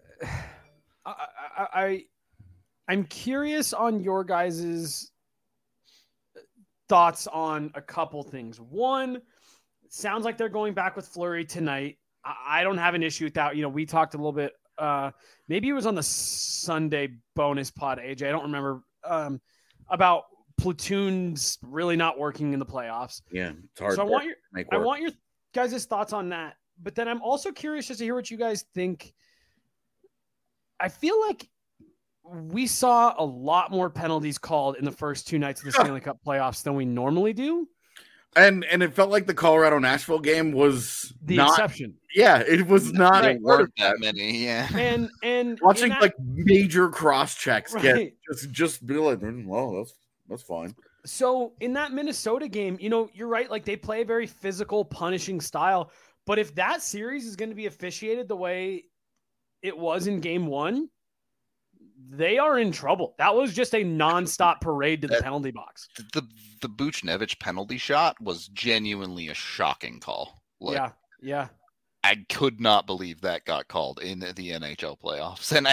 I'm curious on your guys' thoughts on a couple things. One, sounds like they're going back with Fleury tonight. I don't have an issue with that. We talked a little bit. Maybe it was on the Sunday bonus pod, AJ. I don't remember about platoons really not working in the playoffs. Yeah, it's hard. So I want your guys' thoughts on that. But then I'm also curious just to hear what you guys think. I feel like we saw a lot more penalties called in the first two nights of the Stanley Cup playoffs than we normally do. And it felt like the Colorado-Nashville game was the exception. Yeah, it was not. There weren't that many. Yeah, and watching major cross checks right. just be like, well, that's fine. So in that Minnesota game, you're right. Like, they play a very physical, punishing style. But if that series is going to be officiated the way it was in game one, they are in trouble. That was just a nonstop parade to the penalty box. The Buchnevich penalty shot was genuinely a shocking call. Yeah. I could not believe that got called in the NHL playoffs. And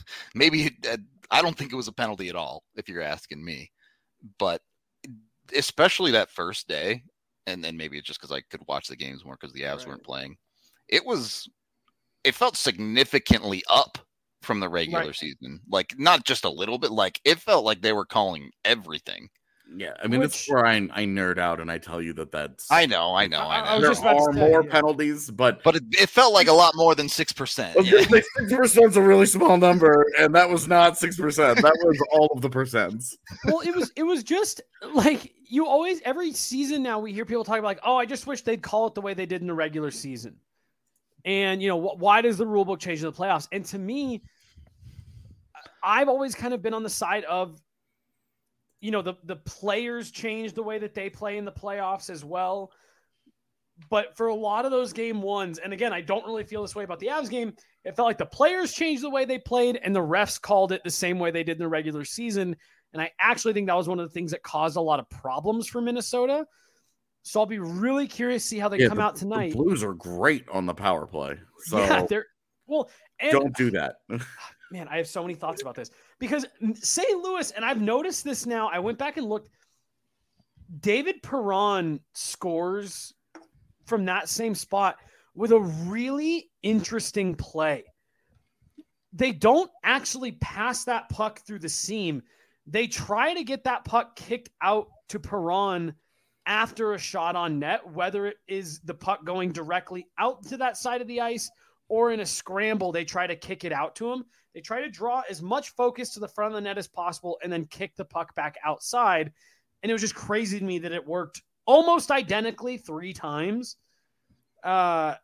I don't think it was a penalty at all, if you're asking me. But especially that first day, and then maybe it's just because I could watch the games more because the Avs weren't playing. It felt significantly up from the regular season. Like, not just a little bit, like it felt like they were calling everything. Yeah, I mean, that's where I nerd out and I tell you that's. I know. There are more penalties, but it felt like a lot more than 6%. 6% is a really small number, and that was not 6%. That was all of the percents. Well, it was just like every season now we hear people talk about like, oh, I just wish they'd call it the way they did in the regular season. And why does the rule book change in the playoffs? And to me, I've always kind of been on the side of. The players change the way that they play in the playoffs as well. But for a lot of those game ones, and again, I don't really feel this way about the Avs game, it felt like the players changed the way they played and the refs called it the same way they did in the regular season. And I actually think that was one of the things that caused a lot of problems for Minnesota. So I'll be really curious to see how they come out tonight. The Blues are great on the power play. So don't do that. Man, I have so many thoughts about this because St. Louis, and I've noticed this now. I went back and looked. David Perron scores from that same spot with a really interesting play. They don't actually pass that puck through the seam. They try to get that puck kicked out to Perron after a shot on net, whether it is the puck going directly out to that side of the ice or in a scramble, they try to kick it out to him. They try to draw as much focus to the front of the net as possible and then kick the puck back outside. And it was just crazy to me that it worked almost identically 3 times. I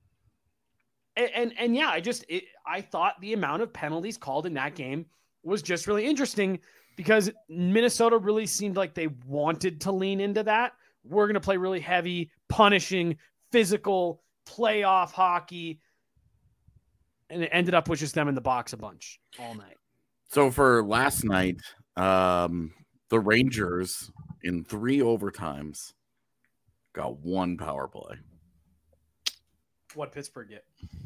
thought the amount of penalties called in that game was just really interesting because Minnesota really seemed like they wanted to lean into that. We're going to play really heavy, punishing, physical, playoff hockey. And it ended up with just them in the box a bunch all night. So for last night, the Rangers in 3 overtimes got 1 power play. What Pittsburgh get?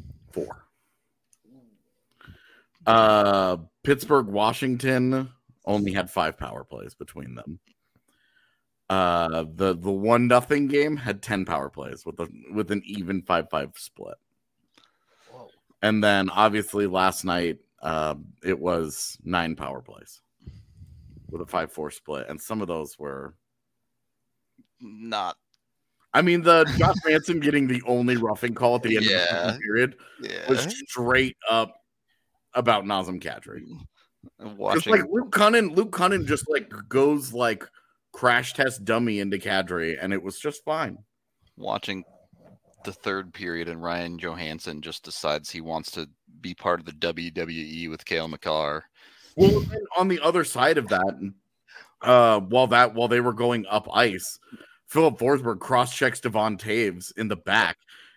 4. Pittsburgh, Washington only had 5 power plays between them. The 1-0 game had 10 power plays with an even 5-5 split. And then, obviously, last night, it was 9 power plays with a 5-4 split. And some of those were not. I mean, the Josh Manson getting the only roughing call at the end of the second period was straight up about Nazem Kadri. Just like Luke Cunnin just like goes like crash test dummy into Kadri, and it was just fine. Watching the third period and Ryan Johansson just decides he wants to be part of the WWE with Cale Makar. Well, on the other side of that, while they were going up ice, Philip Forsberg cross-checks Devon Taves in the back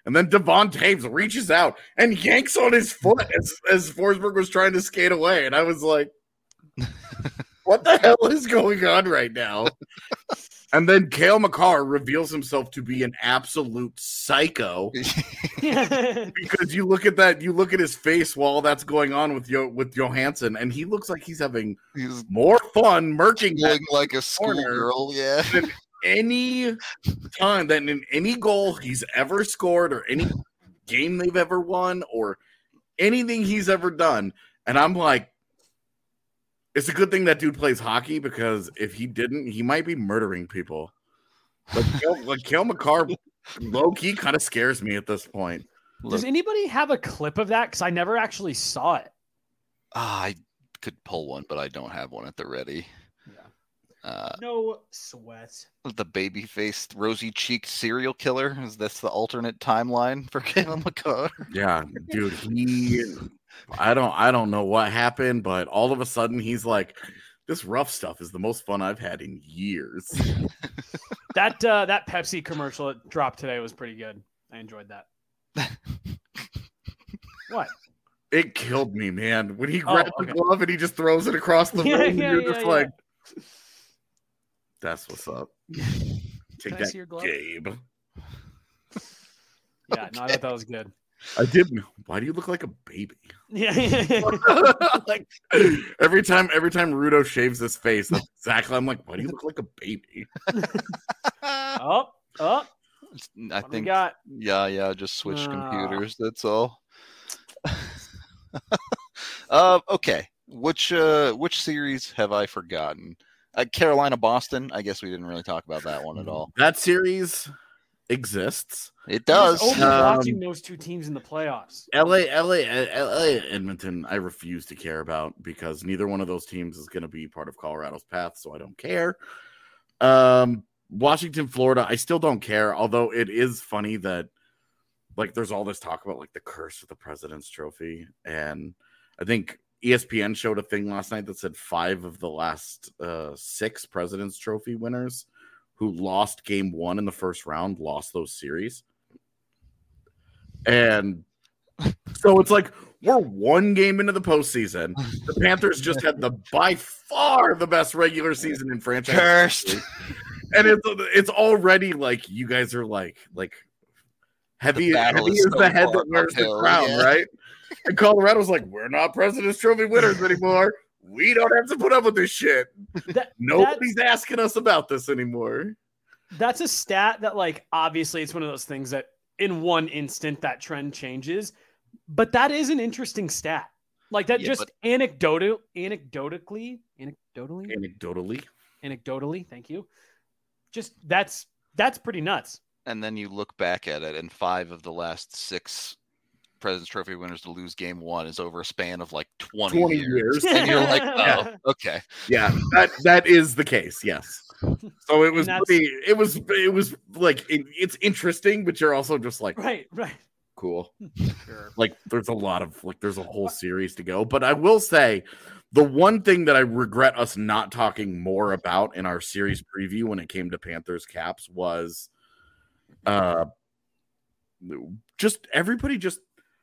And then Devon Taves reaches out and yanks on his foot as Forsberg was trying to skate away. And I was like, what the hell is going on right now? And then Cale Makar reveals himself to be an absolute psycho. Because you look at his face while that's going on with Johansson, and he looks like he's having more fun murking like a schoolgirl, yeah. Than any time than in any goal he's ever scored or any game they've ever won or anything he's ever done. And I'm like, it's a good thing that dude plays hockey, because if he didn't, he might be murdering people. But Cale Makar, low-key, kind of scares me at this point. Does anybody have a clip of that? Because I never actually saw it. I could pull one, but I don't have one at the ready. Yeah. No sweat. The baby-faced, rosy-cheeked serial killer? Is this the alternate timeline for Cale Makar? Yeah, dude, I don't know what happened, but all of a sudden he's like, this rough stuff is the most fun I've had in years. That Pepsi commercial that dropped today was pretty good. I enjoyed that. What? It killed me, man. When he grabs the glove and he just throws it across the room, and you're just like, that's what's up. Take that, Gabe. Yeah, no, I thought that was good. I didn't. Why do you look like a baby? Yeah. Like every time Rudo shaves his face, that's exactly. I'm like, why do you look like a baby? I think. Yeah. Just switch computers. That's all. Okay. Which series have I forgotten? Carolina Boston. I guess we didn't really talk about that one at all. That series exists. It does. Watching those two teams in the playoffs. LA, Edmonton, I refuse to care about, because neither one of those teams is going to be part of Colorado's path, so I don't care. Washington, Florida, I still don't care, although it is funny that like there's all this talk about like the curse of the President's Trophy, and I think ESPN showed a thing last night that said 5 of the last 6 President's Trophy winners who lost game 1 in the first round lost those series. And so it's like we're 1 game into the postseason. The Panthers just had by far the best regular season in franchise history. And it's already like you guys are like heavy is the head that wears the crown, right? And Colorado's like, we're not President's Trophy winners anymore. We don't have to put up with this shit. Nobody's asking us about this anymore. That's a stat that, like, obviously it's one of those things that in one instant that trend changes, but that is an interesting stat. Like that, anecdotally. Thank you. Just that's pretty nuts. And then you look back at it, and 5 of the last 6 President's Trophy winners to lose game 1 is over a span of like 20 years. And you're like, oh, okay. Yeah, that is the case. Yes. So it was it was like it's interesting, but you're also just like, right. Cool. Sure. Like there's a whole series to go. But I will say the one thing that I regret us not talking more about in our series preview when it came to Panthers Caps was just everybody just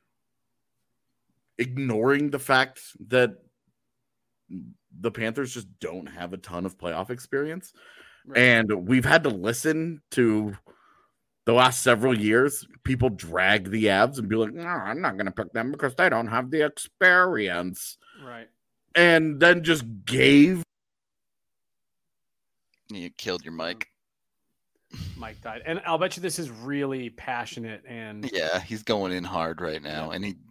ignoring the fact that the Panthers just don't have a ton of playoff experience. Right. And we've had to listen to the last several years, people drag the Avs and be like, no, I'm not going to pick them because they don't have the experience. Right. And then just gave. You killed your mic. Mike died. And I'll bet you this is really passionate. And yeah, he's going in hard right now. And he.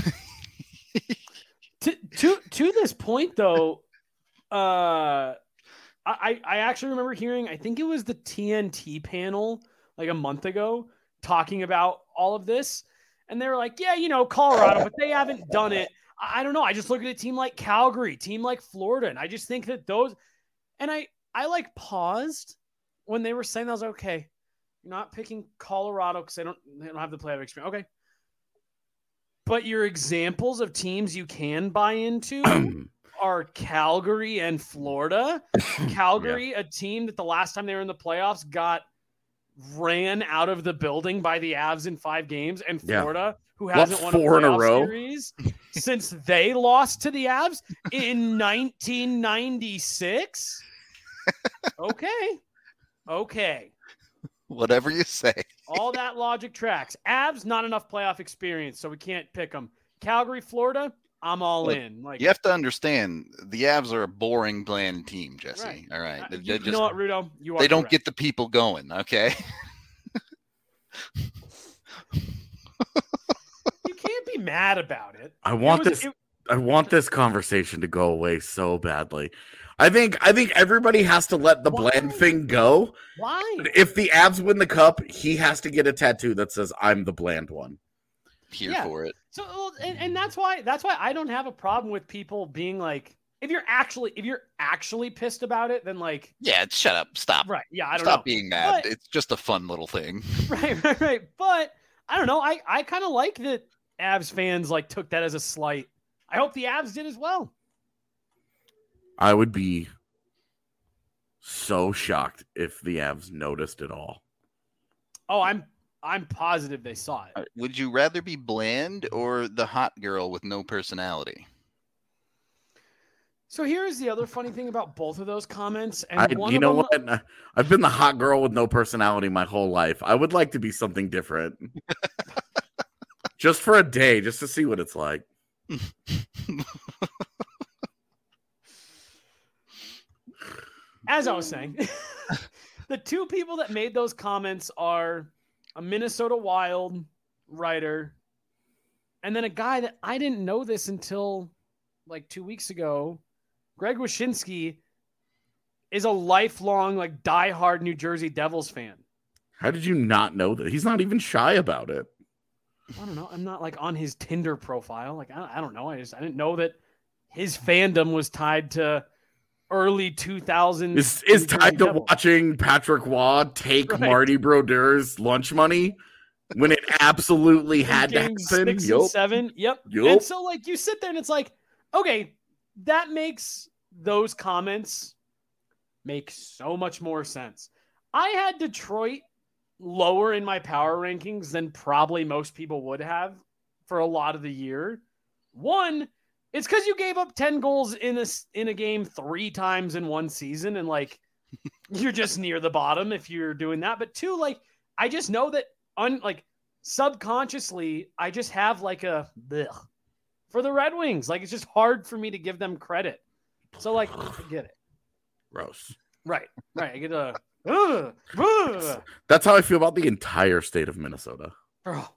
To this point, though, I actually remember hearing, I think it was the TNT panel like a month ago talking about all of this. And they were like, yeah, Colorado, but they haven't done it. I don't know. I just look at a team like Calgary, team like Florida. And I just think that those, and I like paused when they were saying that. I was like, okay, you're not picking Colorado because they don't have the playoff experience. Okay. But your examples of teams you can buy into are Calgary and Florida. Calgary, a team that the last time they were in the playoffs got ran out of the building by the Avs in 5 games, and Florida, who What, hasn't won a 4 in a playoff row? series since they lost to the Avs in 1996. Okay. Whatever you say. All that logic tracks. Avs, not enough playoff experience, so we can't pick them. Calgary, Florida, I'm all in. Like, you have to understand, the Avs are a boring, bland team, Jesse. Right. All right. You know what, Rudo? You are they don't correct. get the people going, okay? You can't be mad about it. I want this conversation to go away so badly. I think everybody has to let the bland thing go. Why? If the Avs win the cup, he has to get a tattoo that says "I'm the bland one." Here for it. So, and that's why I don't have a problem with people being like, if you're actually pissed about it, then like, yeah, shut up, stop. Right? Yeah, I don't stop know. being mad. But, it's just a fun little thing. Right. But I don't know. I kind of like that Avs fans like took that as a slight. I hope the Avs did as well. I would be so shocked if the Avs noticed it all. Oh, I'm positive they saw it. Would you rather be bland or the hot girl with no personality? So here's the other funny thing about both of those comments. And what? I've been the hot girl with no personality my whole life. I would like to be something different. Just for a day, just to see what it's like. As I was saying, the 2 people that made those comments are a Minnesota Wild writer and then a guy that I didn't know this until like 2 weeks ago. Greg Wyshynski is a lifelong, like, diehard New Jersey Devils fan. How did you not know that? He's not even shy about it. I don't know. I'm not like on his Tinder profile. Like, I don't know. I didn't know that his fandom was tied to early 2000s. Is tied to watching Patrick Waugh take Marty Brodeur's lunch money when it absolutely had to happen. 6 and 7. Yep. And so, like, you sit there and it's like, okay, that makes those comments make so much more sense. I had Detroit lower in my power rankings than probably most people would have for a lot of the year. One, it's because you gave up 10 goals in a game 3 times in one season, and like you're just near the bottom if you're doing that. But 2, like, I just know that subconsciously I just have like a blech for the Red Wings. Like, it's just hard for me to give them credit. So like, I get it. Gross. Right. I get a. That's how I feel about the entire state of Minnesota. Bro.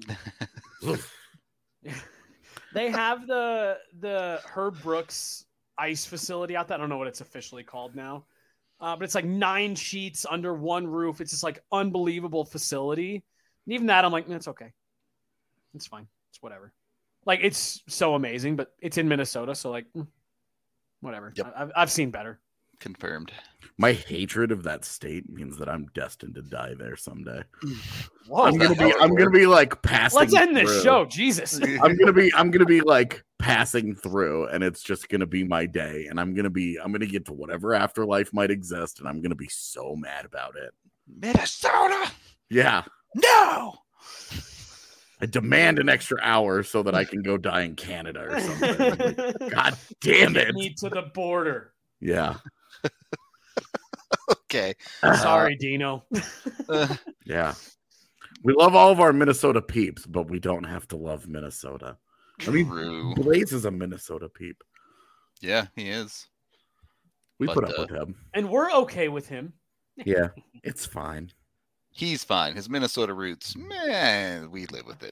They have the Herb Brooks ice facility out there. I don't know what it's officially called now. But it's like 9 sheets under one roof. It's just like unbelievable facility. And even that, I'm like, it's okay. It's fine. It's whatever. Like, it's so amazing, but it's in Minnesota. So like, whatever. Yep. I've seen better. Confirmed. My hatred of that state means that I'm destined to die there someday. Whoa, I'm gonna be like passing. Let's end through. this show, Jesus. I'm gonna be like passing through, and it's just gonna be my day, and I'm gonna get to whatever afterlife might exist, and I'm gonna be so mad about it. Minnesota. Yeah. No. I demand an extra hour so that I can go die in Canada or something. God damn it! Need to the border. Yeah. Okay. Sorry, Dino. Yeah. We love all of our Minnesota peeps, but we don't have to love Minnesota. I mean, Blaze is a Minnesota peep. Yeah, he is. We put up with him. And we're okay with him. Yeah, it's fine. He's fine. His Minnesota roots, man, we live with it.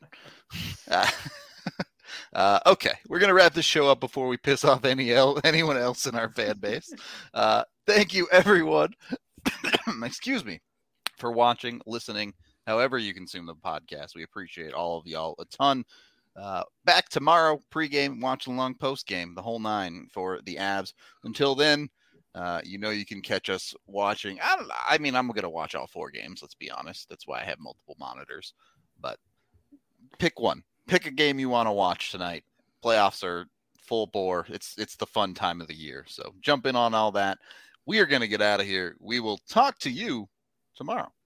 Okay, we're going to wrap this show up before we piss off anyone else in our fan base. Thank you, everyone. Excuse me, for watching, listening, however you consume the podcast. We appreciate all of y'all a ton. Back tomorrow, pregame, watch along, postgame, the whole 9 for the Avs. Until then, you can catch us watching. I'm going to watch all 4 games, let's be honest. That's why I have multiple monitors. But pick one. Pick a game you want to watch tonight. Playoffs are full bore. It's the fun time of the year. So jump in on all that. We are going to get out of here. We will talk to you tomorrow.